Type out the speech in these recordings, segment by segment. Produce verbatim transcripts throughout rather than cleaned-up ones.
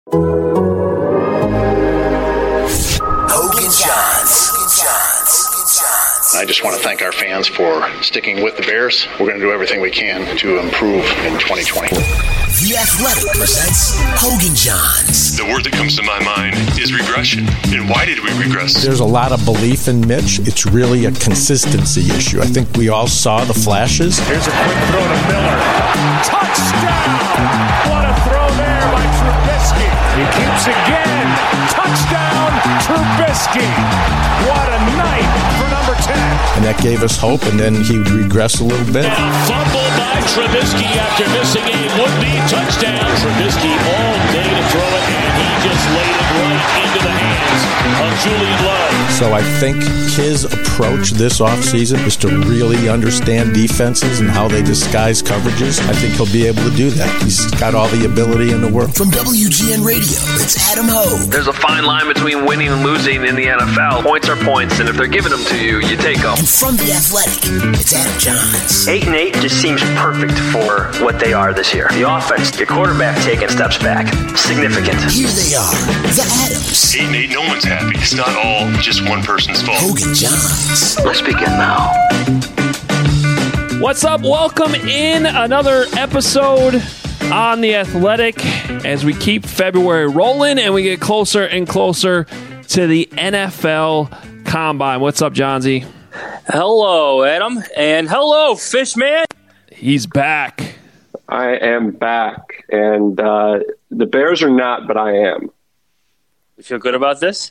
Hogan Johns. I just want to thank our fans for sticking with the Bears. We're going to do everything we can to improve in twenty twenty. The Athletic presents Hogan Johns. The word that comes to my mind is regression. And why did we regress? There's a lot of belief in Mitch. It's really a consistency issue. I think we all saw the flashes. Here's a quick throw to Miller. Touchdown! What a throw there by Trubisky. He keeps again. Touchdown, Trubisky. What a night for number ten. And that gave us hope, and then he regressed a little bit. And a fumble by Trubisky after missing a would-be touchdown. Trubisky all day to throw it, and he just laid it right into the hands of Julian Love. So I think his approach this offseason is to really understand defenses and how they disguise coverages. I think he'll be able to do that. He's got all the ability in the world. From W G N Radio, it's Adam Hogue. There's a fine line between winning and losing in the N F L. Points are points, and if they're giving them to you, you take them. And from The Athletic, it's Adam Johns. Eight and eight just seems perfect for what they are this year. The offense, your quarterback taking steps back. Significant. Here they are, the Adams. Eight and eight, no one's happy. It's not all just one person's fault. Hogan Johns. Let's begin now. What's up? Welcome in another episode on The Athletic as we keep February rolling and we get closer and closer to the N F L Combine. What's up, Johnsy? Hello, Adam, and hello, Fishman. He's back. I am back, and uh, the Bears are not, but I am. You feel good about this?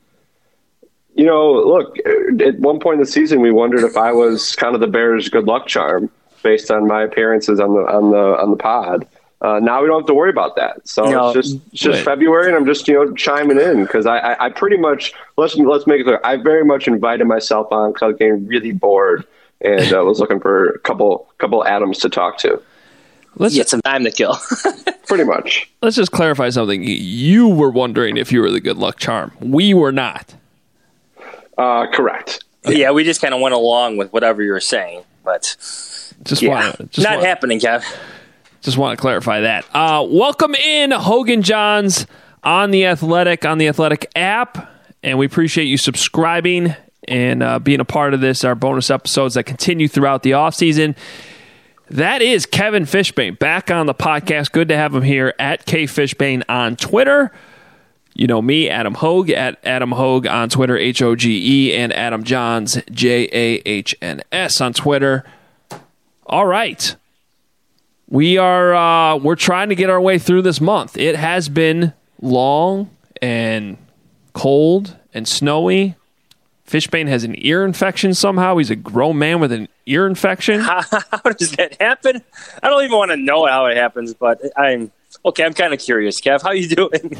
You know, look, at one point in the season, we wondered if I was kind of the Bears' good luck charm based on my appearances on the on the on the pod. Uh, now we don't have to worry about that. So no, it's just it's just wait. February, and I'm just you know chiming in because I, I I pretty much let's let's make it clear. I very much invited myself on because I was getting really bored and uh, was looking for a couple couple Adams to talk to. Let's get some time to kill. Pretty much. Let's just clarify something. You were wondering if you were the good luck charm. We were not. Uh, correct. Yeah, we just kind of went along with whatever you were saying, but just yeah, wanna, just not wanna, happening, Kev. Just want to clarify that. Uh, welcome in Hogan Johns on The Athletic, on the Athletic app, and we appreciate you subscribing and uh, being a part of this, our bonus episodes that continue throughout the offseason. That is Kevin Fishbane back on the podcast. Good to have him here at K Fishbane on Twitter. You know me, Adam Hogue, at Adam Hogue on Twitter, H O G E, and Adam Johns, J A H N S on Twitter. All right. We are uh, we're trying to get our way through this month. It has been long and cold and snowy. Fishbane has an ear infection somehow. He's a grown man with an ear infection. How, how does that happen? I don't even want to know how it happens, but I'm okay. I'm kind of curious. Kev, how you doing?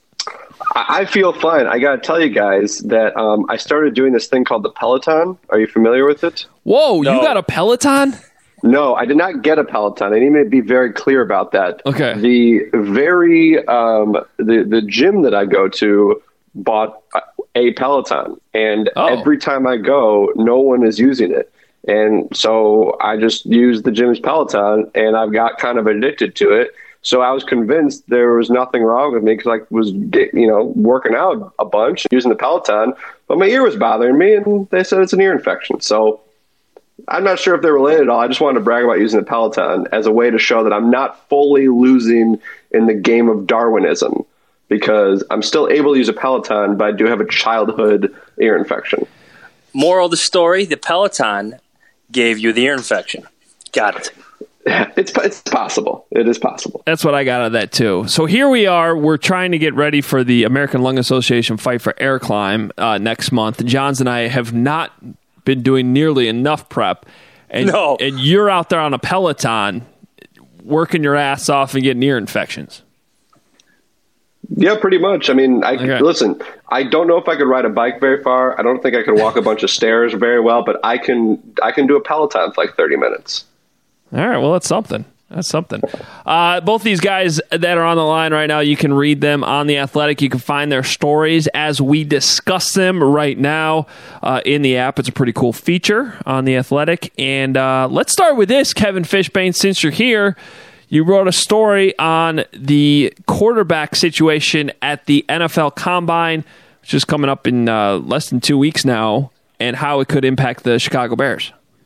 I feel fine. I got to tell you guys that um, I started doing this thing called the Peloton. Are you familiar with it? Whoa, no. You got a Peloton? No, I did not get a Peloton. I need to be very clear about that. Okay. The very um, the the gym that I go to bought a Peloton, and oh. every time I go, no one is using it, and so I just use the gym's Peloton, and I've got kind of addicted to it. So I was convinced there was nothing wrong with me because I was, you know, working out a bunch using the Peloton, but my ear was bothering me, and they said it's an ear infection. So I'm not sure if they're related at all. I just wanted to brag about using the Peloton as a way to show that I'm not fully losing in the game of Darwinism, because I'm still able to use a Peloton, but I do have a childhood ear infection. Moral of the story, the Peloton gave you the ear infection. Got it. It's it's possible. It is possible. That's what I got out of that, too. So here we are. We're trying to get ready for the American Lung Association Fight for Air Climb uh, next month. Johns and I have not been doing nearly enough prep. And, no. and you're out there on a Peloton working your ass off and getting ear infections. Yeah, pretty much. I mean, I okay. listen, I don't know if I could ride a bike very far. I don't think I could walk a bunch of stairs very well, but I can I can do a Peloton for like thirty minutes. All right, well, that's something. That's something. Uh, both these guys that are on the line right now, you can read them on The Athletic. You can find their stories as we discuss them right now uh, in the app. It's a pretty cool feature on The Athletic. And uh, let's start with this, Kevin Fishbane, since you're here. You wrote a story on the quarterback situation at the N F L Combine, which is coming up in uh, less than two weeks now, and how it could impact the Chicago Bears.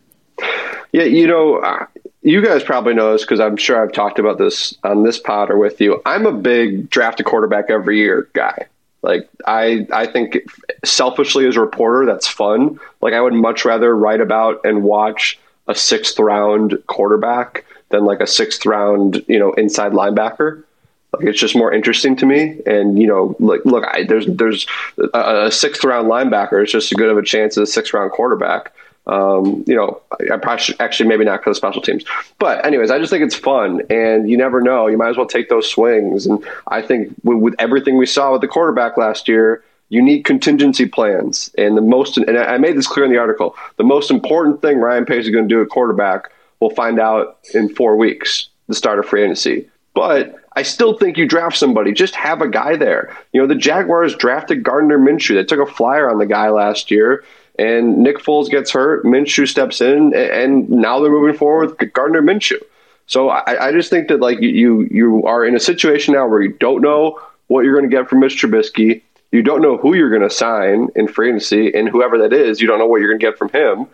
Yeah, you know, uh, you guys probably know this because I'm sure I've talked about this on this pod or with you. I'm a big draft a quarterback every year guy. Like, I, I think selfishly as a reporter, that's fun. Like, I would much rather write about and watch a sixth round quarterback than like a sixth round, you know, inside linebacker. Like, it's just more interesting to me. And, you know, like, look, I, there's, there's a, a sixth round linebacker is just as good of a chance as a sixth round quarterback. Um, you know, I, I probably should, actually maybe not for the special teams, but anyways, I just think it's fun and you never know. You might as well take those swings. And I think with, with everything we saw with the quarterback last year, you need contingency plans. And the most, and I made this clear in the article, the most important thing Ryan Pace is going to do at quarterback, we'll find out in four weeks, the start of free agency. But I still think you draft somebody. Just have a guy there. You know, the Jaguars drafted Gardner Minshew. They took a flyer on the guy last year, and Nick Foles gets hurt. Minshew steps in, and now they're moving forward with Gardner Minshew. So I, I just think that like you you are in a situation now where you don't know what you're going to get from Mitch Trubisky. You don't know who you're going to sign in free agency, and whoever that is, you don't know what you're going to get from him.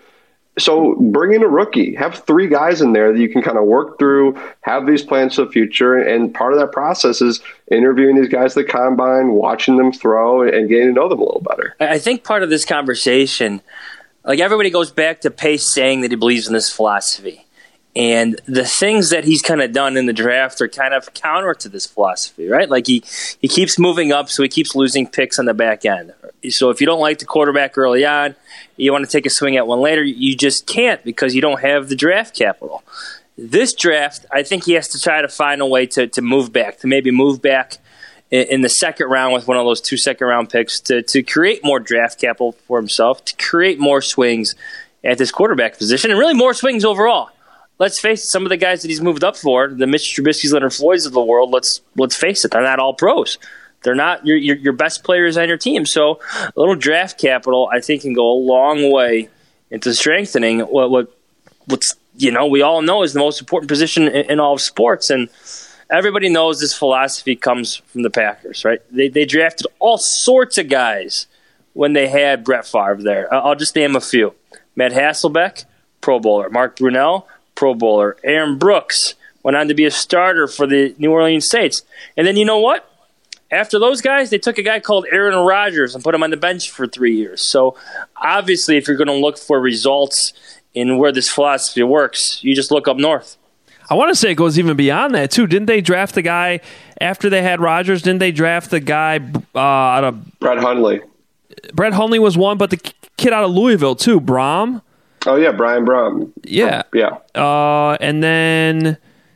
So bring in a rookie. Have three guys in there that you can kind of work through, have these plans for the future, and part of that process is interviewing these guys at the Combine, watching them throw, and getting to know them a little better. I think part of this conversation, like everybody goes back to Pace saying that he believes in this philosophy. And the things that he's kind of done in the draft are kind of counter to this philosophy, right? Like he, he keeps moving up, so he keeps losing picks on the back end. So if you don't like the quarterback early on, you want to take a swing at one later, you just can't because you don't have the draft capital. This draft, I think he has to try to find a way to, to move back, to maybe move back in, in the second round with one of those two second-round picks to, to create more draft capital for himself, to create more swings at this quarterback position, and really more swings overall. Let's face it, some of the guys that he's moved up for, the Mitch Trubisky's, Leonard Floyd's of the world, let's let's face it, they're not all pros. They're not your, your your best players on your team. So a little draft capital, I think, can go a long way into strengthening what what what's you know we all know is the most important position in, in all of sports. And everybody knows this philosophy comes from the Packers, right? They they drafted all sorts of guys when they had Brett Favre there. I'll just name a few: Matt Hasselbeck, Pro Bowler; Mark Brunell, Pro Bowler; Aaron Brooks went on to be a starter for the New Orleans Saints. And then you know what? After those guys, they took a guy called Aaron Rodgers and put him on the bench for three years. So obviously, if you're going to look for results in where this philosophy works, you just look up north. I want to say it goes even beyond that, too. Didn't they draft the guy after they had Rodgers? Didn't they draft the guy uh, out of... Brett Hundley. Brett Hundley was one, but the kid out of Louisville, too, Brom. Oh, yeah, Brian Brom. Yeah. Yeah. Uh, and then...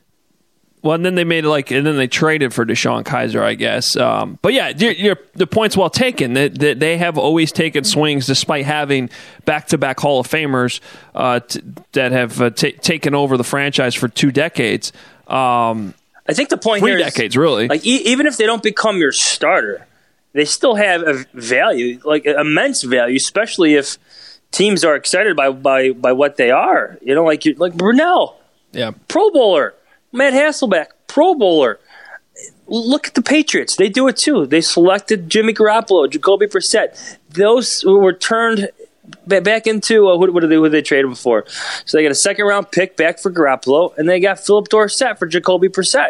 Well, and then they made it like, and then they traded for Deshaun Kaiser, I guess. Um, but yeah, you're, you're, the point's well taken. That they, they have always taken swings, despite having back-to-back Hall of Famers uh, t- that have uh, t- taken over the franchise for two decades. Um, I think the point three here decades, is, really. Like e- even if they don't become your starter, they still have a value, like immense value, especially if teams are excited by by, by what they are. You know, like like Brunell, yeah, Pro Bowler. Matt Hasselbeck, Pro Bowler. Look at the Patriots. They do it too. They selected Jimmy Garoppolo, Jacoby Brissett. Those were turned back into, uh, what, what did they, who did they trade them for? So they got a second-round pick back for Garoppolo, and they got Philip Dorsett for Jacoby Brissett.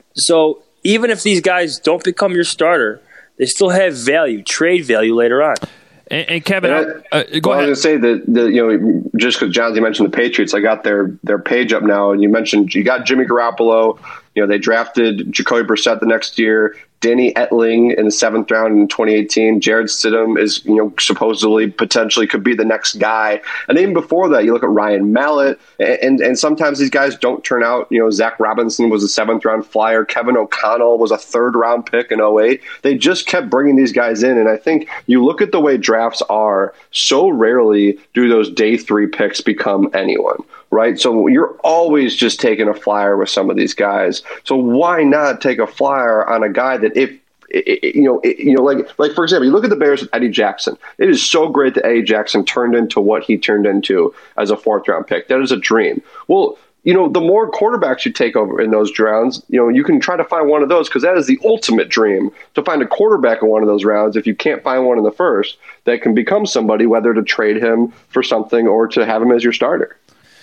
So even if these guys don't become your starter, they still have value, trade value later on. And, and Kevin, and I, uh, go well, ahead. I was going to say that, the, you know, just because John, you mentioned the Patriots, I got their their page up now, and you mentioned you got Jimmy Garoppolo. You know, they drafted Jacoby Brissett the next year, Danny Etling in the seventh round in twenty eighteen. Jared Stidham is, you know, supposedly potentially could be the next guy. And even before that, you look at Ryan Mallett, and, and and sometimes these guys don't turn out. You know, Zach Robinson was a seventh round flyer. Kevin O'Connell was a third round pick in oh eight. They just kept bringing these guys in. And I think you look at the way drafts are, so rarely do those day three picks become anyone. Right. So you're always just taking a flyer with some of these guys. So why not take a flyer on a guy that if, you know, you know, like, like, for example, you look at the Bears with Eddie Jackson. It is so great that Eddie Jackson turned into what he turned into as a fourth round pick. That is a dream. Well, you know, the more quarterbacks you take over in those rounds, you know, you can try to find one of those because that is the ultimate dream to find a quarterback in one of those rounds. If you can't find one in the first, that can become somebody, whether to trade him for something or to have him as your starter.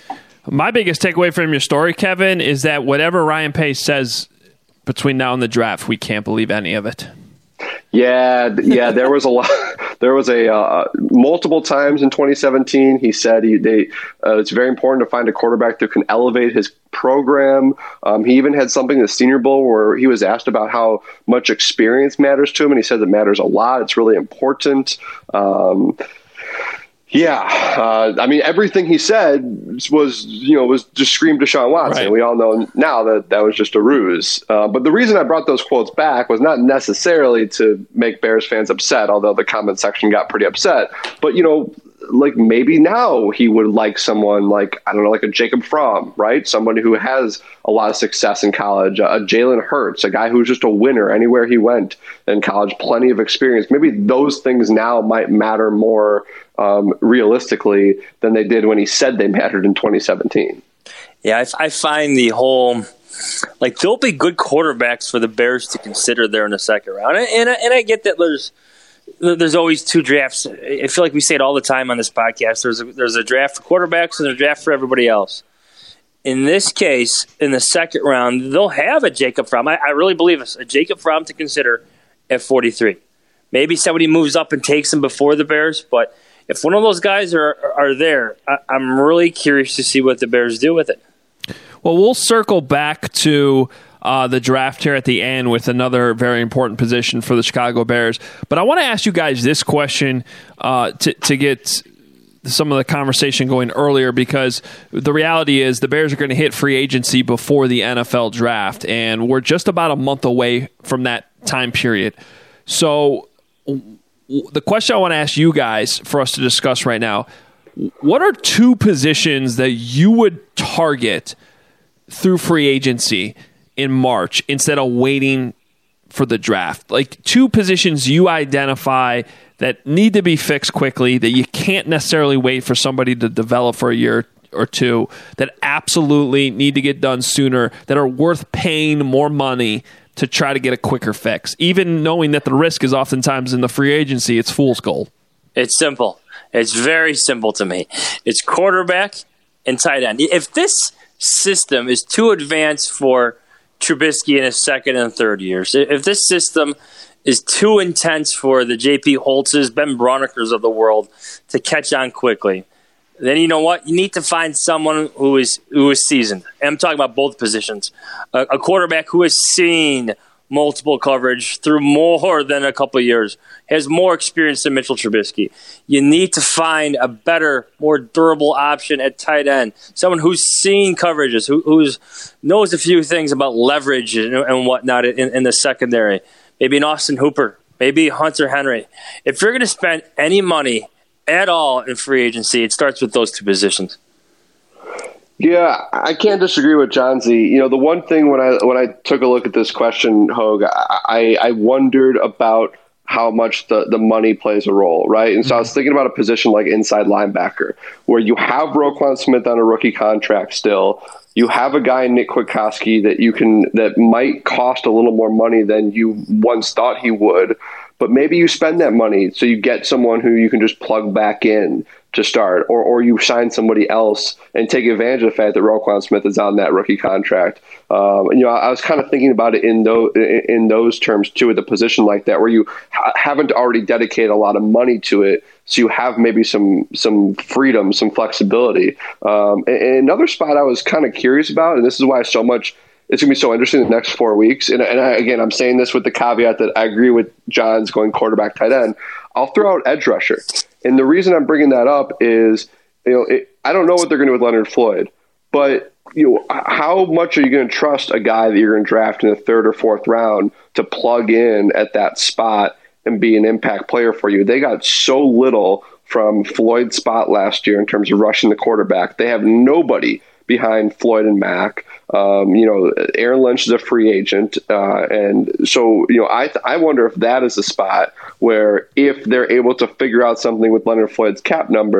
My biggest takeaway from your story, Kevin, is that whatever Ryan Pace says between now and the draft, we can't believe any of it. Yeah, yeah, there was a lot. There was a uh, multiple times in twenty seventeen. He said he, they, uh, it's very important to find a quarterback that can elevate his program. Um, he even had something in the Senior Bowl where he was asked about how much experience matters to him, and he said it matters a lot. It's really important. Um, Yeah, uh, I mean, everything he said was, you know, was just screamed Deshaun Watson. Right. We all know now that that was just a ruse. Uh, but the reason I brought those quotes back was not necessarily to make Bears fans upset, although the comment section got pretty upset. But, you know, like maybe now he would like someone like, I don't know, like a Jacob Fromm, right? Somebody who has a lot of success in college, a Jalen Hurts, a guy who's just a winner anywhere he went in college, plenty of experience. Maybe those things now might matter more um, realistically than they did when he said they mattered in twenty seventeen. Yeah, I, I find the whole, like, there'll be good quarterbacks for the Bears to consider there in the second round. And, and, and I get that there's, There's always two drafts. I feel like we say it all the time on this podcast. There's a, there's a draft for quarterbacks and a draft for everybody else. In this case, in the second round, they'll have a Jacob Fromm. I, I really believe this, a Jacob Fromm to consider at forty-three. Maybe somebody moves up and takes him before the Bears, but if one of those guys are are there, I, I'm really curious to see what the Bears do with it. Well, we'll circle back to Uh, the draft here at the end with another very important position for the Chicago Bears. But I want to ask you guys this question uh, to, to get some of the conversation going earlier, because the reality is the Bears are going to hit free agency before the N F L draft, and we're just about a month away from that time period. So w- the question I want to ask you guys for us to discuss right now, what are two positions that you would target through free agency in March instead of waiting for the draft? Like two positions you identify that need to be fixed quickly, that you can't necessarily wait for somebody to develop for a year or two, that absolutely need to get done sooner, that are worth paying more money to try to get a quicker fix, even knowing that the risk is oftentimes in the free agency, it's fool's gold. It's simple. It's very simple to me. It's quarterback and tight end. If this system is too advanced for Trubisky in his second and third years, if this system is too intense for the J P Holtzes, Ben Brauneckers of the world to catch on quickly, then you know what? You need to find someone who is who is seasoned. And I'm talking about both positions. A, a quarterback who has seen multiple coverage through more than a couple of years, has more experience than Mitchell Trubisky. You need to find a better, more durable option at tight end. Someone who's seen coverages, who who's knows a few things about leverage and, and whatnot in, in the secondary. Maybe an Austin Hooper, maybe Hunter Henry. If you're going to spend any money at all in free agency, it starts with those two positions. Yeah, I can't disagree with John Z. You know, the one thing when I when I took a look at this question, Hogue, I, I wondered about how much the, the money plays a role, right? And so mm-hmm. I was thinking about a position like inside linebacker, where you have Roquan Smith on a rookie contract still. You have a guy, Nick Kwiatkowski, that you can that might cost a little more money than you once thought he would. But maybe you spend that money so you get someone who you can just plug back in to start, or or you sign somebody else and take advantage of the fact that Roquan Smith is on that rookie contract. Um, and, you know, I was kind of thinking about it in those in those terms too, at the position like that, where you ha- haven't already dedicated a lot of money to it, so you have maybe some some freedom, some flexibility. Um, and, and another spot I was kind of curious about, and this is why so much. It's going to be so interesting in the next four weeks. And, and I, again, I'm saying this with the caveat that I agree with John's going quarterback, tight end. I'll throw out edge rusher. And the reason I'm bringing that up is, you know, it, I don't know what they're going to do with Leonard Floyd, but you know, how much are you going to trust a guy that you're going to draft in the third or fourth round to plug in at that spot and be an impact player for you? They got so little from Floyd's spot last year in terms of rushing the quarterback. They have nobody behind Floyd and Mack. Um, you know, Aaron Lynch is a free agent. Uh, and so, you know, I th- I wonder if that is a spot where if they're able to figure out something with Leonard Floyd's cap number,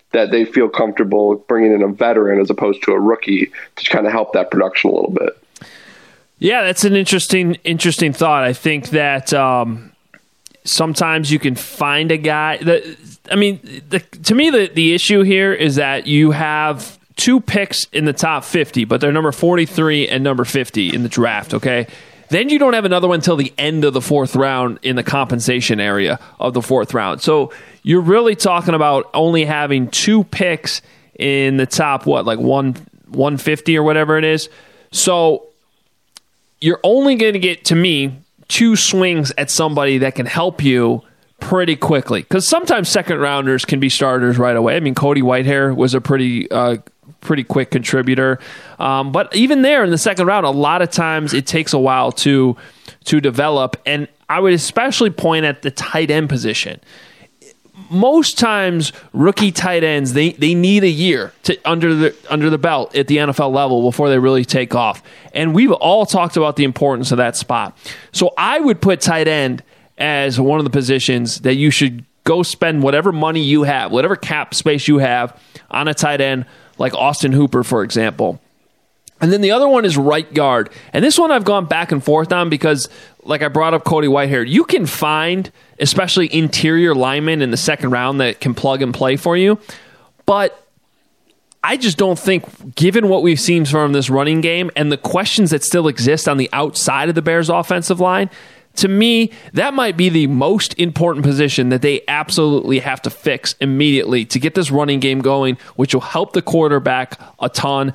that they feel comfortable bringing in a veteran as opposed to a rookie to kind of help that production a little bit. Yeah, that's an interesting, interesting thought. I think that um, sometimes you can find a guy that, I mean, the, to me, the, the issue here is that you have two picks in the top fifty, but they're number forty-three and number fifty in the draft, okay? Then you don't have another one until the end of the fourth round in the compensation area of the fourth round. So you're really talking about only having two picks in the top, what, like one, one fifty or whatever it is. So you're only going to get, to me, two swings at somebody that can help you pretty quickly. Because sometimes second rounders can be starters right away. I mean, Cody Whitehair was a pretty uh, pretty quick contributor. Um, but even there in the second round, a lot of times it takes a while to to develop. And I would especially point at the tight end position. Most times, rookie tight ends, they, they need a year to under the under the belt at the N F L level before they really take off. And we've all talked about the importance of that spot. So I would put tight end as one of the positions that you should go spend whatever money you have, whatever cap space you have on a tight end like Austin Hooper, for example. And then the other one is right guard. And this one I've gone back and forth on because, like I brought up Cody Whitehair, you can find, especially interior linemen in the second round that can plug and play for you. But I just don't think, given what we've seen from this running game and the questions that still exist on the outside of the Bears' offensive line, to me, that might be the most important position that they absolutely have to fix immediately to get this running game going, which will help the quarterback a ton.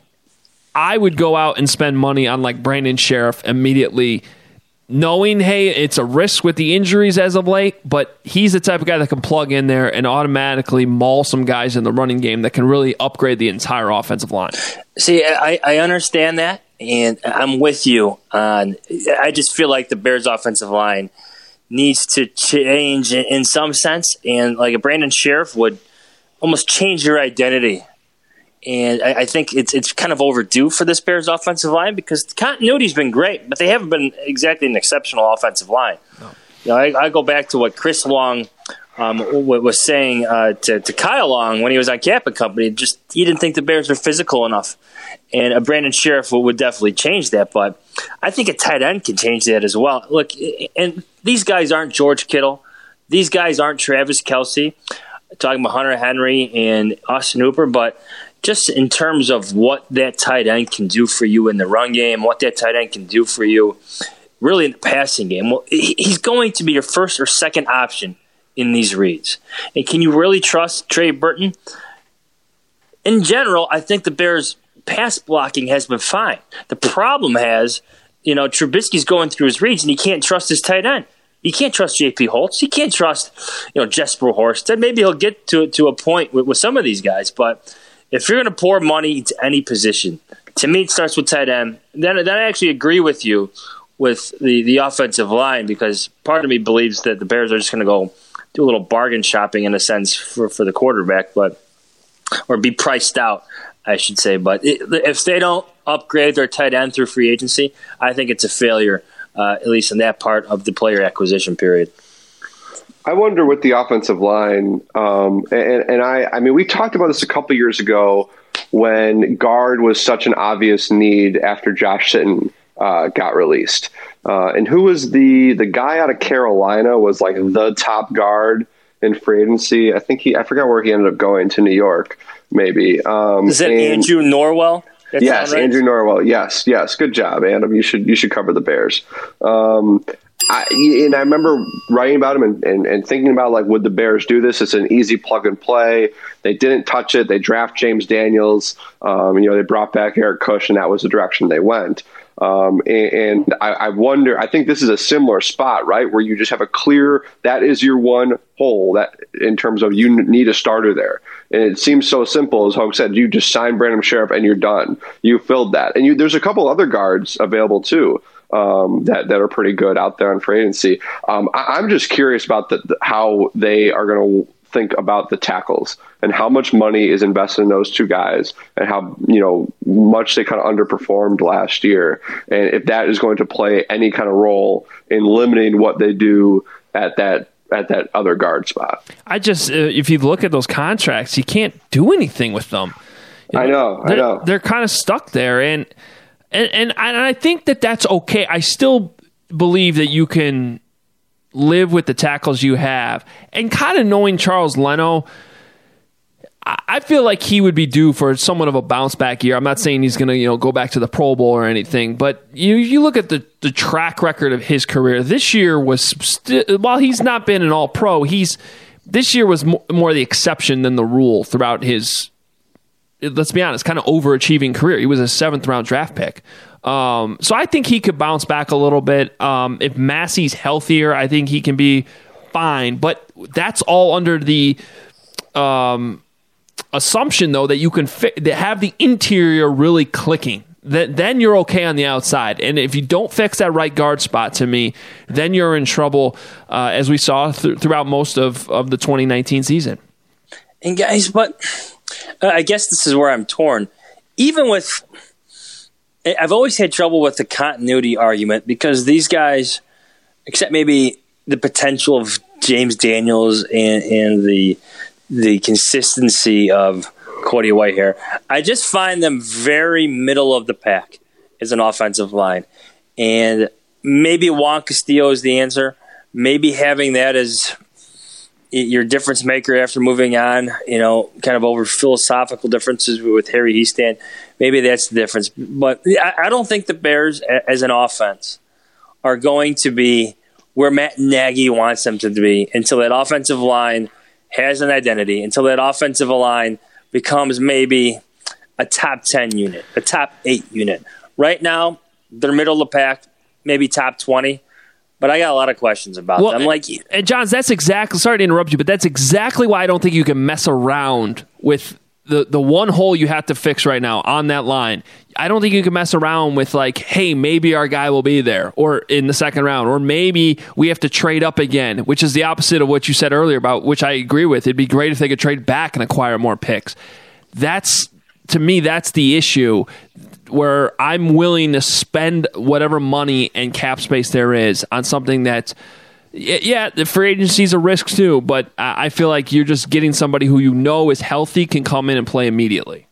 I would go out and spend money on like Brandon Sheriff immediately, knowing, hey, it's a risk with the injuries as of late, but he's the type of guy that can plug in there and automatically maul some guys in the running game that can really upgrade the entire offensive line. See, I, I understand that, and I'm with you on. I just feel like the Bears' offensive line needs to change in some sense, and like a Brandon Sheriff would almost change your identity. And I, I think it's it's kind of overdue for this Bears offensive line because the continuity's been great, but they haven't been exactly an exceptional offensive line. No. You know, I, I go back to what Chris Long um, was saying uh, to, to Kyle Long when he was on Cap and Company. Just he didn't think the Bears were physical enough, and a Brandon Sheriff would definitely change that. But I think a tight end can change that as well. Look, and these guys aren't George Kittle. These guys aren't Travis Kelce. I'm talking about Hunter Henry and Austin Hooper, but just in terms of what that tight end can do for you in the run game, what that tight end can do for you really in the passing game. Well, he's going to be your first or second option in these reads. And can you really trust Trey Burton? In general, I think the Bears' pass blocking has been fine. The problem has, you know, Trubisky's going through his reads and he can't trust his tight end. You can't trust J P Holtz. You can't trust, you know, Jesper Horsted. Maybe he'll get to to a point with, with some of these guys, but if you're going to pour money into any position, to me it starts with tight end. Then, then I actually agree with you with the, the offensive line because part of me believes that the Bears are just going to go do a little bargain shopping in a sense for, for the quarterback, but or be priced out, I should say. But it, if they don't upgrade their tight end through free agency, I think it's a failure, uh, at least in that part of the player acquisition period. I wonder with the offensive line, um, and, and I, I mean, we talked about this a couple years ago when guard was such an obvious need after Josh Sitton uh, got released. Uh, and who was the the guy out of Carolina was like the top guard in free agency? I think he, I forgot where he ended up going, to New York, maybe. Um, Is that and, Andrew Norwell? That's yes, right? Andrew Norwell. Yes, yes. Good job, Adam. You should you should cover the Bears. Um, I, and I remember writing about him and, and, and thinking about, like, would the Bears do this? It's an easy plug and play. They didn't touch it. They draft James Daniels. Um, you know, they brought back Eric Kush, and that was the direction they went. Um, and and I, I wonder, I think this is a similar spot, right, where you just have a clear, that is your one hole that in terms of you need a starter there. And it seems so simple, as Hogue said, you just sign Brandon Sheriff and you're done. You filled that. And you, there's a couple other guards available too. Um, that, that are pretty good out there on free agency. Um, I, I'm just curious about the, the, how they are going to think about the tackles and how much money is invested in those two guys and how, you know, much they kind of underperformed last year. And if that is going to play any kind of role in limiting what they do at that at that other guard spot. I just, uh, if you look at those contracts, you can't do anything with them. You know, I know, I know. They're kind of stuck there, and and and I, and I think that that's okay. I still believe that you can live with the tackles you have, and kind of knowing Charles Leno, I feel like he would be due for somewhat of a bounce back year. I'm not saying he's going to, you know, go back to the Pro Bowl or anything, but you you look at the, the track record of his career. This year was st- while he's not been an All Pro, he's this year was mo- more the exception than the rule throughout his. Let's be honest, kind of overachieving career. He was a seventh round draft pick, um, so I think he could bounce back a little bit. Um, if Massey's healthier, I think he can be fine. But that's all under the. Um, assumption though that you can fi- that have the interior really clicking, that then you're okay on the outside. And if you don't fix that right guard spot, to me, then you're in trouble, uh, as we saw th- throughout most of, of the twenty nineteen season. And guys, but uh, I guess this is where I'm torn. Even with, I've always had trouble with the continuity argument, because these guys, except maybe the potential of James Daniels and, and the the consistency of Cody Whitehair, I just find them very middle of the pack as an offensive line. And maybe Juan Castillo is the answer. Maybe having that as your difference maker after moving on, you know, kind of over philosophical differences with Harry Hiestand, maybe that's the difference. But I don't think the Bears as an offense are going to be where Matt Nagy wants them to be until that offensive line has an identity, until that offensive line becomes maybe a top ten unit, a top eight unit. Right now, they're middle of the pack, maybe top twenty, but I got a lot of questions about well, them. Like, and Johns, that's exactly, sorry to interrupt you, but that's exactly why I don't think you can mess around with the, the one hole you have to fix right now on that line. I don't think you can mess around with like, hey, maybe our guy will be there or in the second round, or maybe we have to trade up again, which is the opposite of what you said earlier about, which I agree with. It'd be great if they could trade back and acquire more picks. That's, to me, that's the issue where I'm willing to spend whatever money and cap space there is on something that, yeah, the free agency is a risk too, but I feel like you're just getting somebody who you know is healthy, can come in and play immediately.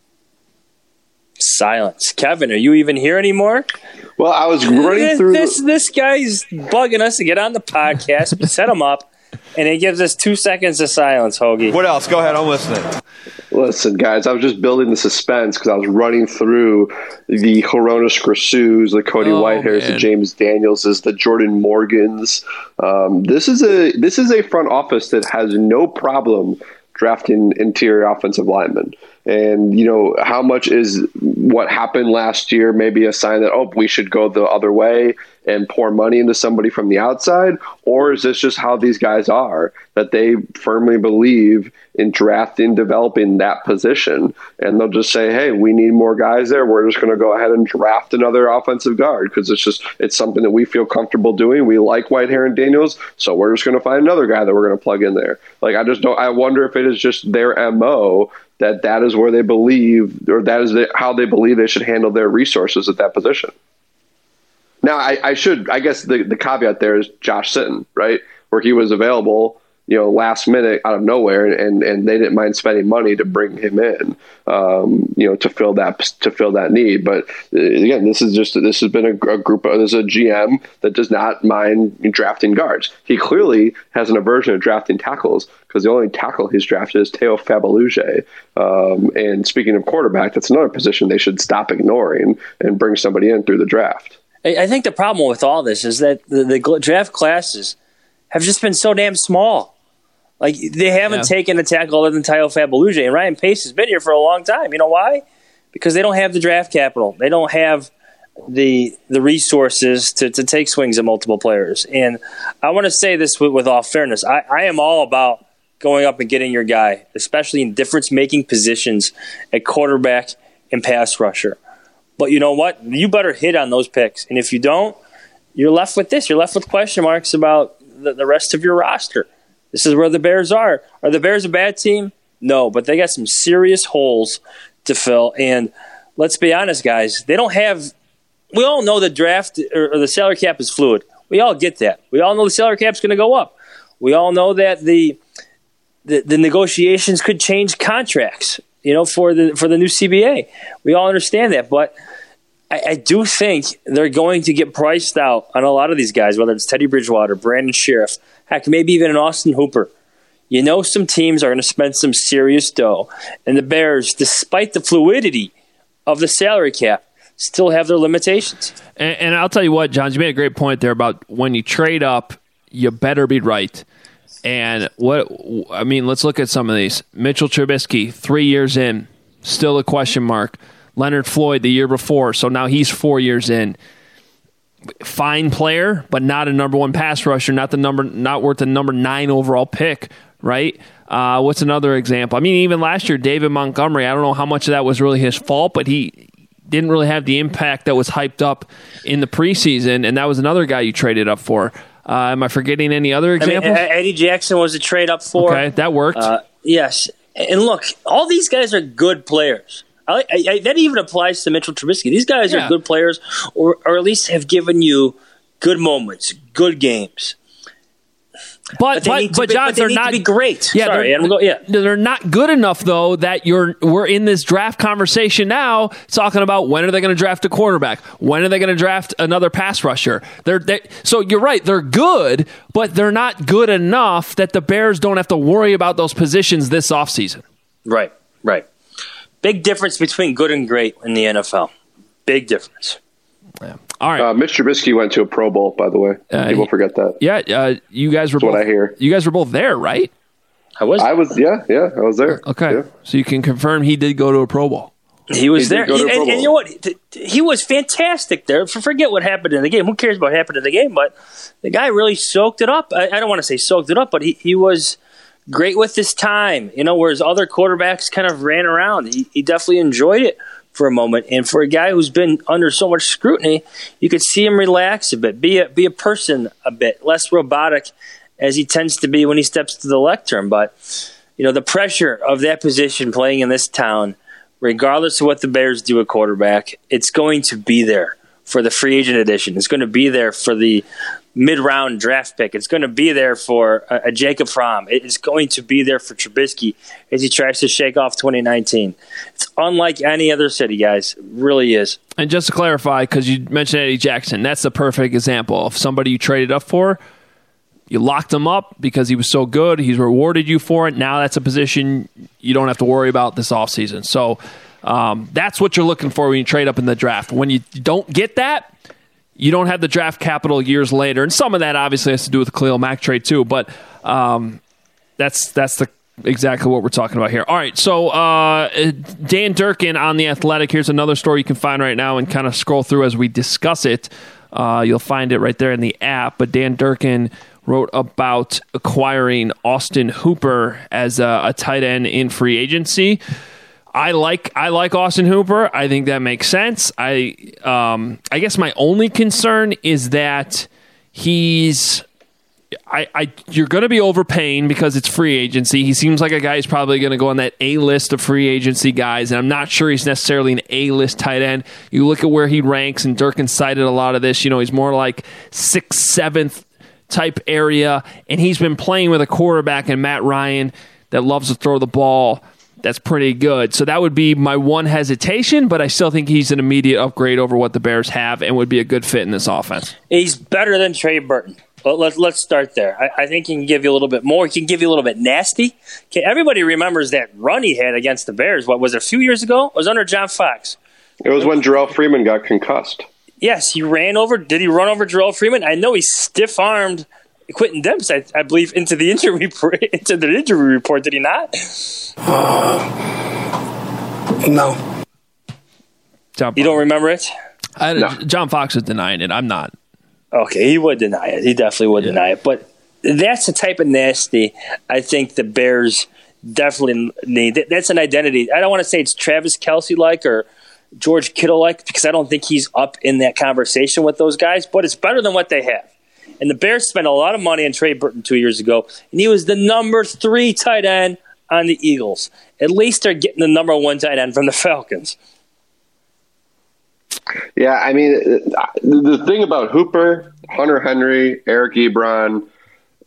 Silence. Kevin, are you even here anymore? Well, I was running through this. This guy's bugging us to get on the podcast. Set him up, and he gives us two seconds of silence. Hoagie. What else? Go ahead. I'm listening. Listen, guys, I was just building the suspense because I was running through the Hronis Grasus, the Cody Oh, Whitehairs, the man. James Danielses, the Jordan Morgans. Um, this is a this is a front office that has no problem drafting interior offensive linemen. And, you know, how much is what happened last year maybe a sign that, oh, we should go the other way and pour money into somebody from the outside? Or is this just how these guys are, that they firmly believe in drafting, developing that position? And they'll just say, hey, we need more guys there. We're just going to go ahead and draft another offensive guard because it's just it's something that we feel comfortable doing. We like Whitehair and Daniels, so we're just going to find another guy that we're going to plug in there. Like, I just don't – I wonder if it is just their M O that that is where they believe, or that is the, how they believe they should handle their resources at that position. Now, I, I should, I guess the, the caveat there is Josh Sitton, right? Where he was available, you know, last minute out of nowhere, and, and they didn't mind spending money to bring him in, um, you know, to fill that, to fill that need. But uh, again, this is just, this has been a, a group of, there's a G M that does not mind drafting guards. He clearly has an aversion to drafting tackles because the only tackle he's drafted is Teo Fabaluge. Um, and speaking of quarterback, that's another position they should stop ignoring and bring somebody in through the draft. I think the problem with all this is that the, the draft classes have just been so damn small. Like, they haven't Yeah. taken a tackle other than Teo Fabaluge, and Ryan Pace has been here for a long time. You know why? Because they don't have the draft capital. They don't have the the resources to, to take swings at multiple players. And I want to say this with, with all fairness. I, I am all about going up and getting your guy, especially in difference-making positions at quarterback and pass rusher. But you know what? You better hit on those picks. And if you don't, you're left with this. You're left with question marks about the, the rest of your roster. This is where the Bears are. Are the Bears a bad team? No, but they got some serious holes to fill. And let's be honest, guys, they don't have – we all know the draft or, or the salary cap is fluid. We all get that. We all know the salary cap is going to go up. We all know that the the, the negotiations could change contracts, you know, for the for the new C B A. We all understand that, but I, I do think they're going to get priced out on a lot of these guys, whether it's Teddy Bridgewater, Brandon Sheriff, heck, maybe even an Austin Hooper. You know, some teams are going to spend some serious dough, and the Bears, despite the fluidity of the salary cap, still have their limitations. And, and I'll tell you what, John, you made a great point there about when you trade up, you better be right. And what I mean, let's look at some of these. Mitchell Trubisky, three years in, still a question mark. Leonard Floyd the year before, so now he's four years in. Fine player, but not a number one pass rusher, not the number, not worth the number nine overall pick, right? Uh, what's another example? I mean, even last year, David Montgomery, I don't know how much of that was really his fault, but he didn't really have the impact that was hyped up in the preseason, and that was another guy you traded up for. Uh, am I forgetting any other examples? I mean, Eddie Jackson was a trade up for. Okay, that worked. Uh, yes. And look, all these guys are good players. I, I, I, that even applies to Mitchell Trubisky. These guys yeah. are good players, or, or at least have given you good moments, good games. But but, they but, need to but be, John, but they they're need not to be great. Yeah, Sorry, they're, I'm go, yeah. they're not good enough though that you're we're in this draft conversation now talking about when are they going to draft a quarterback? When are they going to draft another pass rusher? They're they, so you're right, they're good, but they're not good enough that the Bears don't have to worry about those positions this offseason. Right, right. Big difference between good and great in the N F L. Big difference. Yeah. All right. Uh, Mitch Trubisky went to a Pro Bowl, by the way. Uh, People he, forget that. Yeah, uh, you guys were That's both. what I hear. You guys were both there, right? I was. I was. Yeah, yeah, I was there. Okay, yeah. So you can confirm he did go to a Pro Bowl. He was he there, he, and, and you know what? He was fantastic there. Forget what happened in the game. Who cares about what happened in the game? But the guy really soaked it up. I, I don't want to say soaked it up, but he, he was great with his time. You know, whereas other quarterbacks kind of ran around. He, he definitely enjoyed it for a moment, and for a guy who's been under so much scrutiny, you could see him relax a bit, be a be a person a bit, less robotic as he tends to be when he steps to the lectern. But you know, the pressure of that position playing in this town, regardless of what the Bears do at quarterback, it's going to be there for the free agent edition. It's going to be there for the mid-round draft pick. It's going to be there for a, a Jacob Fromm. It's going to be there for Trubisky as he tries to shake off twenty nineteen. It's unlike any other city, guys. It really is. And just to clarify, because you mentioned Eddie Jackson, that's the perfect example of somebody you traded up for. You locked him up because he was so good. He's rewarded you for it. Now that's a position you don't have to worry about this offseason. So um, that's what you're looking for when you trade up in the draft. When you don't get that, you don't have the draft capital years later, and some of that obviously has to do with the Khalil Mack trade too. But um, that's that's the exactly what we're talking about here. All right, so uh, Dan Durkin on The Athletic. Here's another story you can find right now and kind of scroll through as we discuss it. Uh, you'll find it right there in the app. But Dan Durkin wrote about acquiring Austin Hooper as a, a tight end in free agency. I like I like Austin Hooper. I think that makes sense. I um, I guess my only concern is that he's I, I you're going to be overpaying because it's free agency. He seems like a guy who's probably going to go on that A list of free agency guys, and I'm not sure he's necessarily an A list tight end. You look at where he ranks, and Durkin cited a lot of this. You know, he's more like sixth, seventh type area, and he's been playing with a quarterback in Matt Ryan that loves to throw the ball. That's pretty good. So that would be my one hesitation, but I still think he's an immediate upgrade over what the Bears have and would be a good fit in this offense. He's better than Trey Burton. Let's let's start there. I, I think he can give you a little bit more. He can give you a little bit nasty. Okay, everybody remembers that run he had against the Bears. What was it, a few years ago? It was under John Fox. It was when Jarrell Freeman got concussed. Yes, he ran over. Did he run over Jarrell Freeman? I know he stiff-armed Quentin Demps, I, I believe, into the injury report, into the injury report. Did he not? Uh, no. John you don't remember it? I, no. John Fox is denying it. I'm not. Okay, he would deny it. He definitely would yeah. deny it. But that's the type of nasty I think the Bears definitely need. That's an identity. I don't want to say it's Travis Kelce-like or George Kittle-like because I don't think he's up in that conversation with those guys, but it's better than what they have. And the Bears spent a lot of money on Trey Burton two years ago, and he was the number three tight end on the Eagles. At least they're getting the number one tight end from the Falcons. Yeah, I mean, the thing about Hooper, Hunter Henry, Eric Ebron,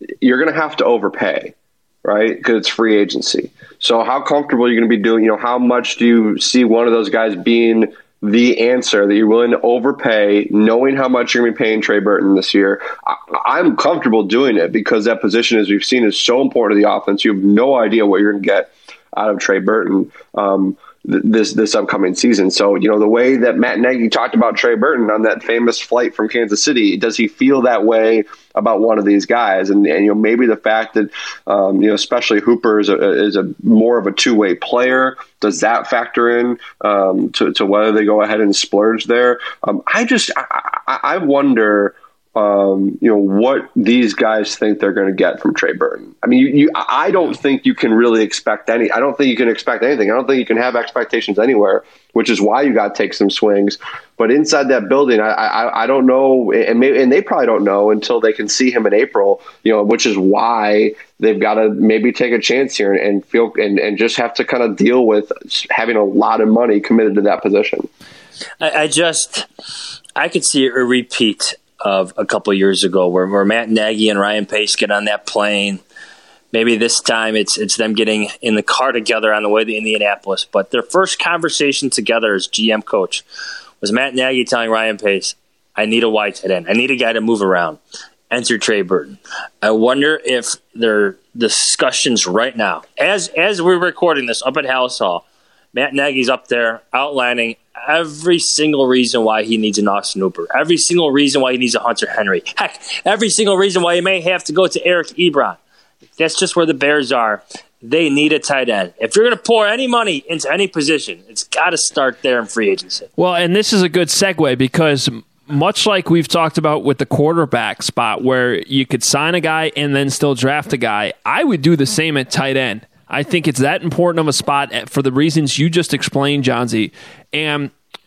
you're going to have to overpay, right? Because it's free agency. So how comfortable are you going to be doing? You know, how much do you see one of those guys being the answer that you're willing to overpay, knowing how much you're going to be paying Trey Burton this year? I, I'm comfortable doing it because that position, as we've seen, is so important to the offense. You have no idea what you're going to get out of Trey Burton um, th- this this upcoming season. So, you know, the way that Matt Nagy talked about Trey Burton on that famous flight from Kansas City, does he feel that way about one of these guys? And, and you know, maybe the fact that, um, you know, especially Hooper is a, is a more of a two-way player, does that factor in um, to, to whether they go ahead and splurge there? Um, I just, I, I, I wonder, um, you know, what these guys think they're going to get from Trey Burton. I mean, you, you, I don't think you can really expect any, I don't think you can expect anything. I don't think you can have expectations anywhere, which is why you got to take some swings. But inside that building, I, I, I don't know, and maybe, and they probably don't know until they can see him in April, you know, which is why they've got to maybe take a chance here and, and feel, and, and just have to kind of deal with having a lot of money committed to that position. I, I just, I could see a repeat of a couple of years ago where, where Matt Nagy and Ryan Pace get on that plane. Maybe this time it's it's them getting in the car together on the way to Indianapolis. But their first conversation together as G M coach was Matt Nagy telling Ryan Pace, I need a wide tight end. I need a guy to move around. Enter Trey Burton. I wonder if their discussions right now, as as we're recording this up at House Hall, Matt Nagy's up there outlining every single reason why he needs an Austin Hooper, every single reason why he needs a Hunter Henry, heck, every single reason why he may have to go to Eric Ebron. That's just where the Bears are. They need a tight end. If you're going to pour any money into any position, it's got to start there in free agency. Well, and this is a good segue because much like we've talked about with the quarterback spot where you could sign a guy and then still draft a guy, I would do the same at tight end. I think it's that important of a spot for the reasons you just explained, Johnsy. And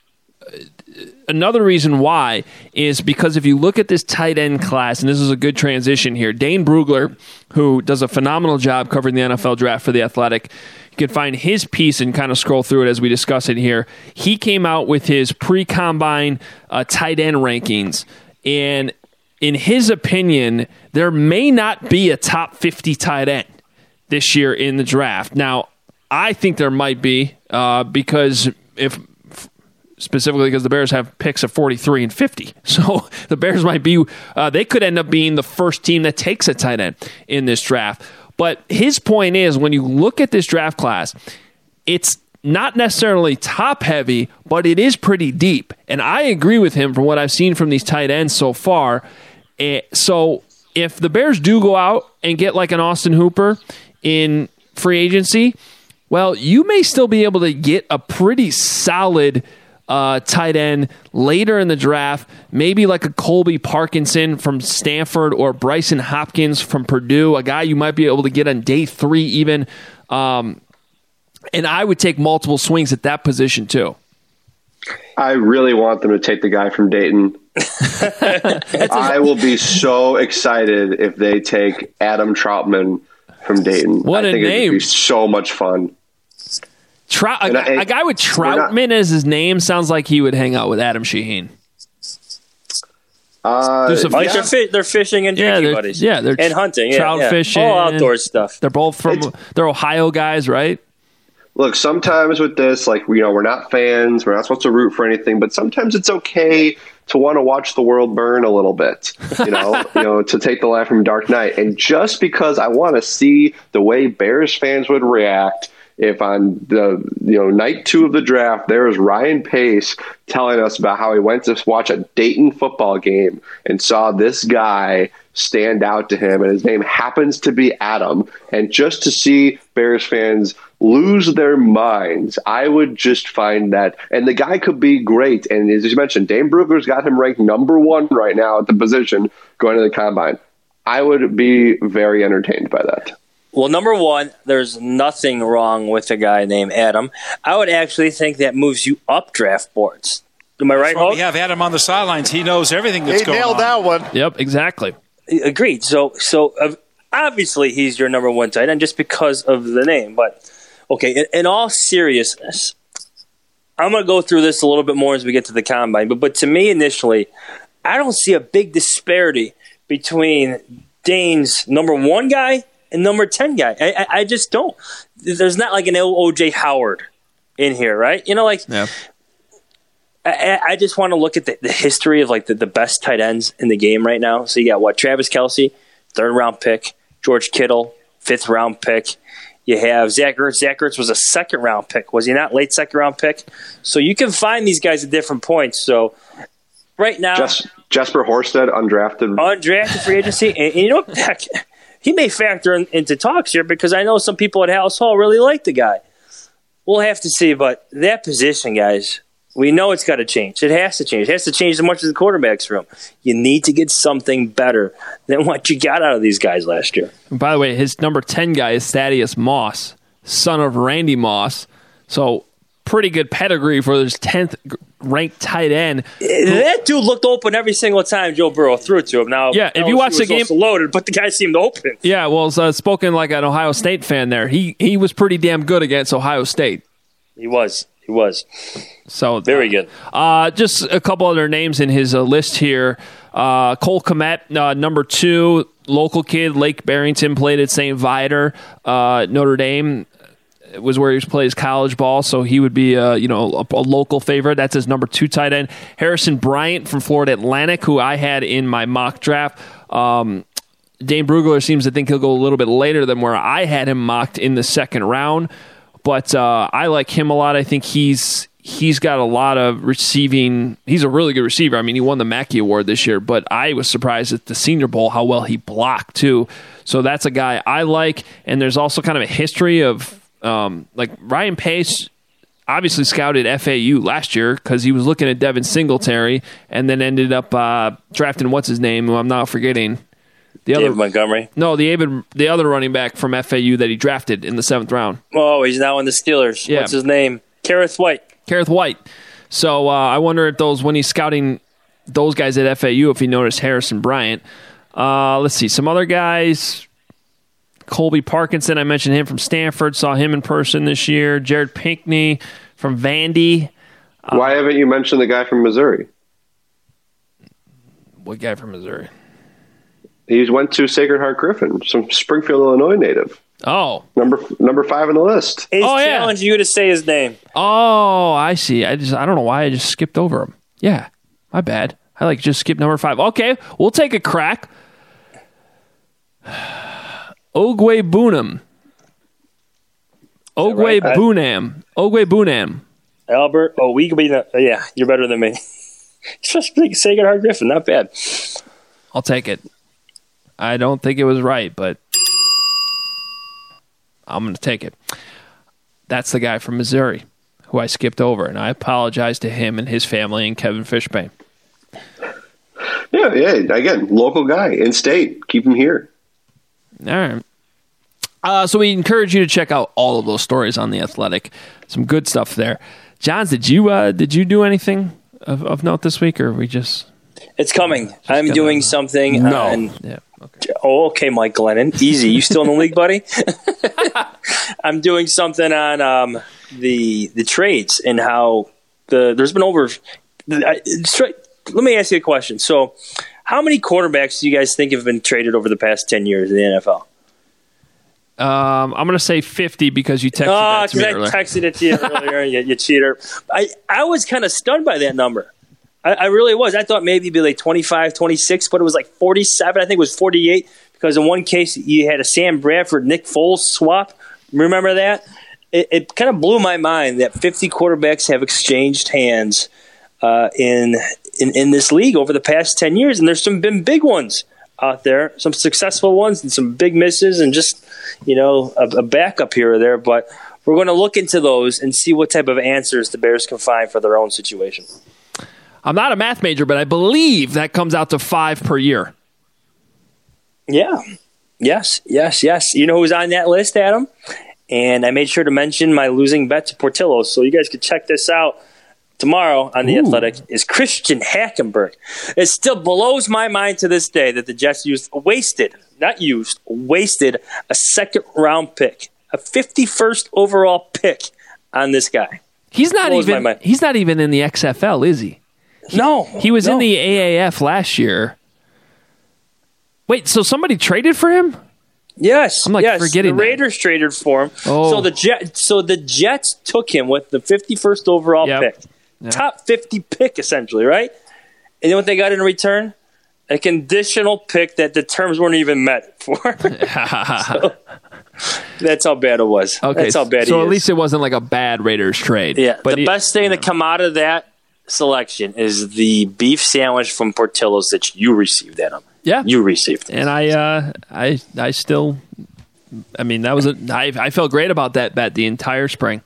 another reason why is because if you look at this tight end class, and this is a good transition here, Dane Brugler, who does a phenomenal job covering the N F L draft for The Athletic, you can find his piece and kind of scroll through it as we discuss it here. He came out with his pre-combine uh, tight end rankings, and in his opinion, there may not be a top fifty tight end this year in the draft. Now, I think there might be uh, because if specifically because the Bears have picks at forty-three and fifty. So the Bears might be, uh, they could end up being the first team that takes a tight end in this draft. But his point is, when you look at this draft class, it's not necessarily top heavy, but it is pretty deep. And I agree with him from what I've seen from these tight ends so far. Uh, so if the Bears do go out and get like an Austin Hooper in free agency, well, you may still be able to get a pretty solid uh, tight end later in the draft, maybe like a Colby Parkinson from Stanford or Bryson Hopkins from Purdue, a guy you might be able to get on day three even. Um, and I would take multiple swings at that position too. I really want them to take the guy from Dayton. I will be so excited if they take Adam Troutman from Dayton. What I a think name. It would be so much fun. Trout, a, I, a guy with Troutman not, as his name sounds like he would hang out with Adam Shaheen. Uh, some, like yeah. they're, fi- they're fishing and drinking yeah, they're, buddies. Yeah, they're and hunting. Yeah, trout yeah. fishing. All outdoor stuff. They're both from, it's, they're Ohio guys, right? Look, sometimes with this, like, you know, we're not fans. We're not supposed to root for anything, but sometimes it's okay to want to watch the world burn a little bit, you know, you know, to take the line from Dark Knight. And just because I want to see the way Bears fans would react if on the, you know, night two of the draft, there is Ryan Pace telling us about how he went to watch a Dayton football game and saw this guy stand out to him, and his name happens to be Adam. And just to see Bears fans lose their minds, I would just find that. And the guy could be great. And as you mentioned, Dane Brugler's got him ranked number one right now at the position going to the combine. I would be very entertained by that. Well, number one, there's nothing wrong with a guy named Adam. I would actually think that moves you up draft boards. Am I right, Hulk? We have Adam on the sidelines. He knows everything that's he going on. He nailed that one. Yep, exactly. Agreed. So, so uh, obviously he's your number one tight end just because of the name. But, okay, in, in all seriousness, I'm going to go through this a little bit more as we get to the combine. But, but to me, initially, I don't see a big disparity between Dane's number one guy and number ten guy. I, I, I just don't. There's not like an O J Howard in here, right? You know, like yeah. I, I just want to look at the, the history of like the, the best tight ends in the game right now. So you got what? Travis Kelce, third round pick. George Kittle, fifth round pick. You have Zach Ertz. Zach Ertz was a second round pick. Was he not late second round pick? So you can find these guys at different points. So right now, Just, Jesper Horsted, undrafted, undrafted free agency, and, and you know what? Heck, he may factor in, into talks here because I know some people at House Hall really like the guy. We'll have to see, but that position, guys, we know it's got to change. It has to change. It has to change as much as the quarterback's room. You need to get something better than what you got out of these guys last year. And by the way, his number ten guy is Thaddeus Moss, son of Randy Moss. So pretty good pedigree for his tenth ranked tight end. That dude looked open every single time Joe Burrow threw it to him. Now, yeah, if you watch the game, loaded, but the guy seemed open. Yeah, well, uh, spoken like an Ohio State fan there. He he was pretty damn good against Ohio State. He was. He was. So very good. Uh, just a couple other names in his uh, list here. Uh, Cole Kmet, uh, number two, local kid, Lake Barrington, played at Saint Viator, uh, Notre Dame. Was where he plays college ball, so he would be a, you know a, a local favorite. That's his number two tight end. Harrison Bryant from Florida Atlantic, who I had in my mock draft. Um, Dane Brugler seems to think he'll go a little bit later than where I had him mocked in the second round, but uh, I like him a lot. I think he's he's got a lot of receiving. He's a really good receiver. I mean, he won the Mackey Award this year, but I was surprised at the Senior Bowl how well he blocked too. So that's a guy I like, and there's also kind of a history of. Um, like Ryan Pace obviously scouted F A U last year because he was looking at Devin Singletary and then ended up uh, drafting what's his name, who I'm not forgetting. The David other Montgomery. No, the David, the other running back from F A U that he drafted in the seventh round. Oh, he's now in the Steelers. Yeah. What's his name? Kareth White. Kareth White. So uh, I wonder if those when he's scouting those guys at F A U, if he noticed Harrison Bryant. Uh, let's see some other guys. Colby Parkinson, I mentioned him from Stanford, saw him in person this year. Jared Pinkney from Vandy. Uh, Why haven't you mentioned the guy from Missouri? What guy from Missouri? He went to Sacred Heart Griffin, some Springfield, Illinois native. Oh. Number number five on the list. He's oh, yeah. challenging you to say his name. Oh, I see. I just I don't know why I just skipped over him. Yeah, my bad. I like just skipped number five. Okay, we'll take a crack. Ogwe Bunam. Ogwe right? Bunam. Ogwe Bunam. Albert, oh, we could be, the, yeah, you're better than me. Just Sacred Heart Griffin, not bad. I'll take it. I don't think it was right, but I'm going to take it. That's the guy from Missouri who I skipped over, and I apologize to him and his family and Kevin Fishbane. Yeah, yeah. Again, local guy, in-state. Keep him here. All right. Uh, so we encourage you to check out all of those stories on The Athletic. Some good stuff there. Johns, did you uh, did you do anything of, of note this week, or we just? It's coming. Just I'm gonna, doing something. No. On, yeah. Okay. Oh, okay, Mike Glennon. Easy. You still in the league, buddy? I'm doing something on um, the the trades and how the there's been over. I, straight, let me ask you a question. So, how many quarterbacks do you guys think have been traded over the past ten years in the N F L? Um, I'm going to say fifty because you texted oh, that to me I earlier. texted it to you earlier, you, you cheater. I, I was kind of stunned by that number. I, I really was. I thought maybe it'd be like twenty-five, twenty-six, but it was like forty-seven. I think it was forty-eight because in one case you had a Sam Bradford, Nick Foles swap. Remember that? It, it kind of blew my mind that fifty quarterbacks have exchanged hands uh, in, in in this league over the past ten years, and there's some been big ones out there, some successful ones and some big misses and just, you know, a, a backup here or there. But we're going to look into those and see what type of answers the Bears can find for their own situation. I'm not a math major, but I believe that comes out to five per year. Yeah. Yes, yes, yes. You know who's on that list, Adam? And I made sure to mention my losing bet to Portillo's, so you guys could check this out. Tomorrow on The Ooh. Athletic is Christian Hackenberg. It still blows my mind to this day that the Jets used, wasted, not used, wasted a second round pick, a fifty-first overall pick on this guy. He's not even. He's not even in the X F L, is he? he no, he was no. in the A A F last year. Wait, so somebody traded for him? Yes, I'm like yes. forgetting the Raiders that. traded for him. Oh. So the Jet, so the Jets took him with the fifty-first overall Yep. pick, Yep. top fifty pick essentially, right? And then what they got in return? A conditional pick that the terms weren't even met for. So, that's how bad it was. Okay, that's how bad. so he at is. least it wasn't like a bad Raiders trade. Yeah, but the it- best thing to come out of that selection is the beef sandwich from Portillo's that you received, Adam. Yeah, you received, and I, uh, I, I still, I mean, that was a. I, I felt great about that bet the entire spring.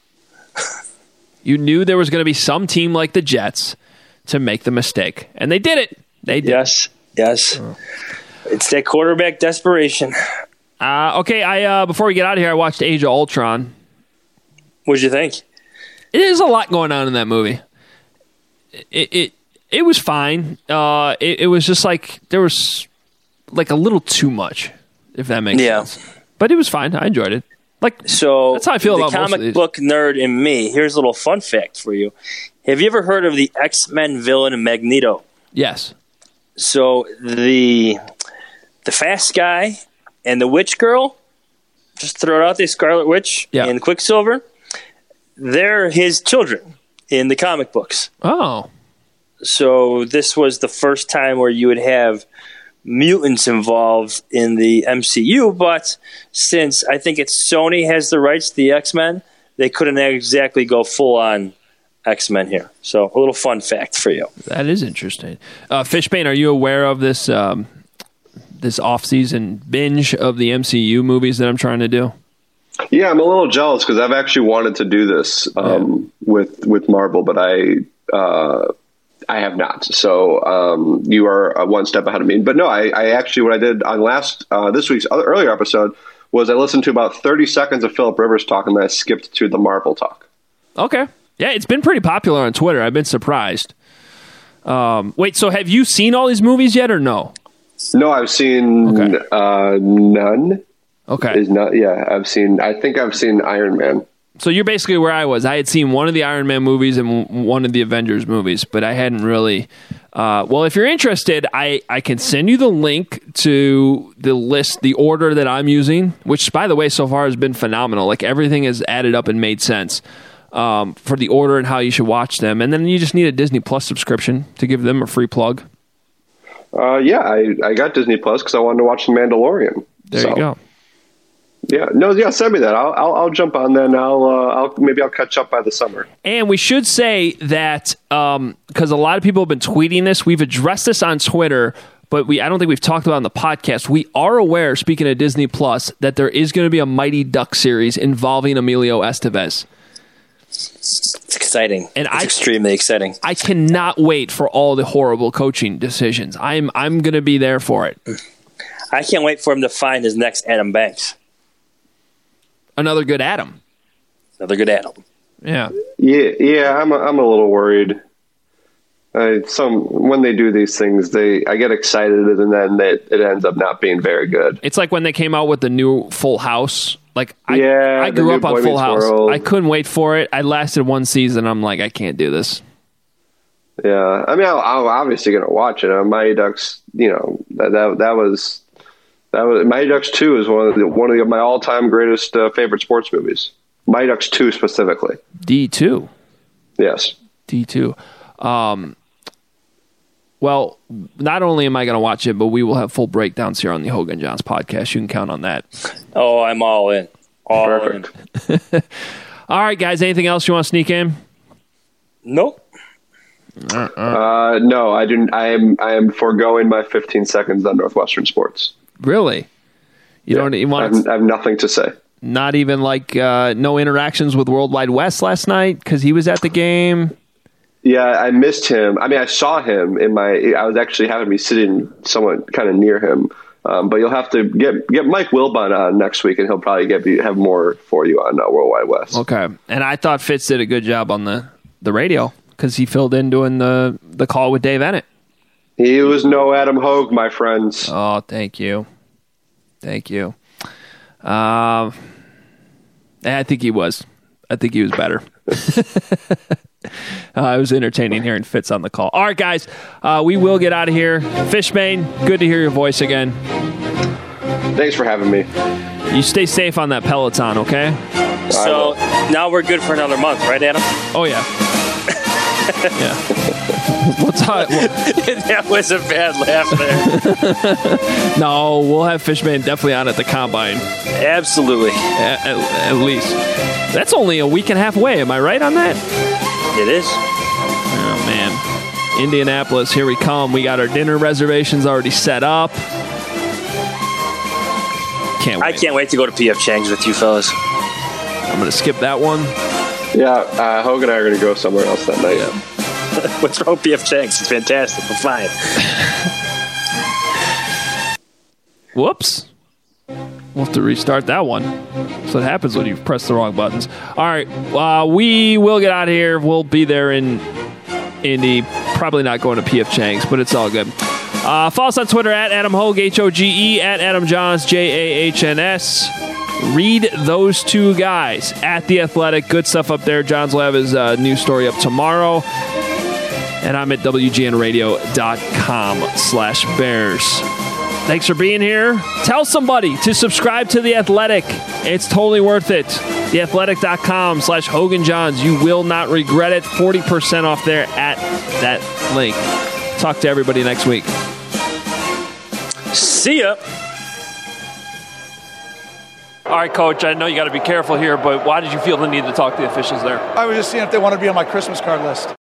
You knew there was going to be some team like the Jets to make the mistake, and they did it. They did. Yes, yes. Oh. It's that quarterback desperation. Uh, okay, I uh, before we get out of here, I watched Age of Ultron. What'd you think? There's a lot going on in that movie. It it, it was fine. Uh, it, it was just like there was like a little too much, if that makes yeah. sense. But it was fine. I enjoyed it. Like so, that's how I feel the about most of comic these. book nerd in me. Here's a little fun fact for you. Have you ever heard of the X-Men villain Magneto? Yes. So the the fast guy and the witch girl, just throw it out there, Scarlet Witch yeah. and Quicksilver, they're his children in the comic books. Oh. So this was the first time where you would have mutants involved in the M C U, but since I think it's Sony has the rights to the X-Men, they couldn't exactly go full on X-Men here. So a little fun fact for you. That is interesting. Uh, Fishbane, are you aware of this um, this off-season binge of the M C U movies that I'm trying to do? Yeah, I'm a little jealous because I've actually wanted to do this um, yeah. with with Marvel, but I uh, I have not. So um, you are one step ahead of me. But no, I, I actually what I did on last uh, this week's other, earlier episode was I listened to about thirty seconds of Philip Rivers talk, and then I skipped to the Marvel talk. Okay. Yeah, it's been pretty popular on Twitter. I've been surprised. Um, wait, so have you seen all these movies yet or no? No, I've seen okay. uh, none. Okay. Is not, yeah, I've seen, I think I've seen Iron Man. So you're basically where I was. I had seen one of the Iron Man movies and one of the Avengers movies, but I hadn't really... Uh, well, if you're interested, I, I can send you the link to the list, the order that I'm using, which, by the way, so far has been phenomenal. Like, everything is added up and made sense um, for the order and how you should watch them. And then you just need a Disney Plus subscription to give them a free plug. Uh, yeah, I, I got Disney Plus because I wanted to watch The Mandalorian. There so. you go. Yeah, no, yeah, send me that. I'll, I'll, I'll jump on then. I'll, uh, I'll maybe I'll catch up by the summer. And we should say that um, because a lot of people have been tweeting this, we've addressed this on Twitter, but we I don't think we've talked about it on the podcast. We are aware, speaking of Disney Plus, that there is going to be a Mighty Duck series involving Emilio Estevez. It's exciting. And it's I, extremely exciting. I cannot wait for all the horrible coaching decisions. I'm I'm going to be there for it. I can't wait for him to find his next Adam Banks. Another good Adam. Another good Adam. Yeah. Yeah, yeah. I'm a, I'm a little worried. Uh, some when they do these things, they I get excited and then they, it ends up not being very good. It's like when they came out with the new Full House. Like I, yeah, I grew up on Full House. World. I couldn't wait for it. I lasted one season. I'm like, I can't do this. Yeah, I mean, I'll, I'm obviously going to watch it. Uh, Mighty Ducks, you know, that that, that was. That was Mighty Ducks two is one of the, one of the, my all time greatest uh, favorite sports movies. Mighty Ducks two specifically. D two. Yes. D two. Um, well, not only am I going to watch it, but we will have full breakdowns here on the Hogan Johns podcast. You can count on that. Oh, I'm all in. All Perfect. in. All right, guys. Anything else you want to sneak in? Nope. Uh, uh, no, I didn't. I am. I am foregoing my fifteen seconds on Northwestern sports. Really? You yeah, don't you want I have, I have nothing to say. Not even like uh, no interactions with World Wide West last night because he was at the game? Yeah, I missed him. I mean, I saw him in my – I was actually having me sitting somewhat kind of near him. Um, but you'll have to get get Mike Wilbon on next week, and he'll probably get have more for you on uh, World Wide West. Okay. And I thought Fitz did a good job on the, the radio because he filled in doing the, the call with Dave Ennett. He was no Adam Hogue, my friends. Oh, thank you. Thank you. Um, I think he was. I think he was better. Uh, it was entertaining hearing Fitz on the call. All right, guys, uh, we will get out of here. Fishbane, good to hear your voice again. Thanks for having me. You stay safe on that Peloton, okay? So now we're good for another month, right, Adam? Oh, yeah. yeah. We'll talk. We'll, that was a bad laugh there. No, we'll have Fishbane definitely on at the Combine. Absolutely. At, at, at least. That's only a week and a half away. Am I right on that? It is. Oh, man. Indianapolis, here we come. We got our dinner reservations already set up. Can't wait. I can't wait to go to P F Chang's with you fellas. I'm going to skip that one. Yeah, uh, Hogan and I are going to go somewhere else that night. Yeah. What's wrong with P F Chang's? It's fantastic. We're fine. Whoops. We'll have to restart that one. That's what happens when you press the wrong buttons. All right. Uh, we will get out of here. We'll be there in Indy. Probably not going to P F Chang's, but it's all good. Uh, follow us on Twitter at Adam Hoge, H O G E, at Adam Johns, J A H N S. Read those two guys at The Athletic. Good stuff up there. Johns will have his uh, new story up tomorrow. And I'm at W G N radio dot com slash Bears. Thanks for being here. Tell somebody to subscribe to The Athletic. It's totally worth it. the athletic dot com slash Hogan Johns. You will not regret it. forty percent off there at that link. Talk to everybody next week. See ya. All right, Coach, I know you got to be careful here, but why did you feel the need to talk to the officials there? I was just seeing if they want to be on my Christmas card list.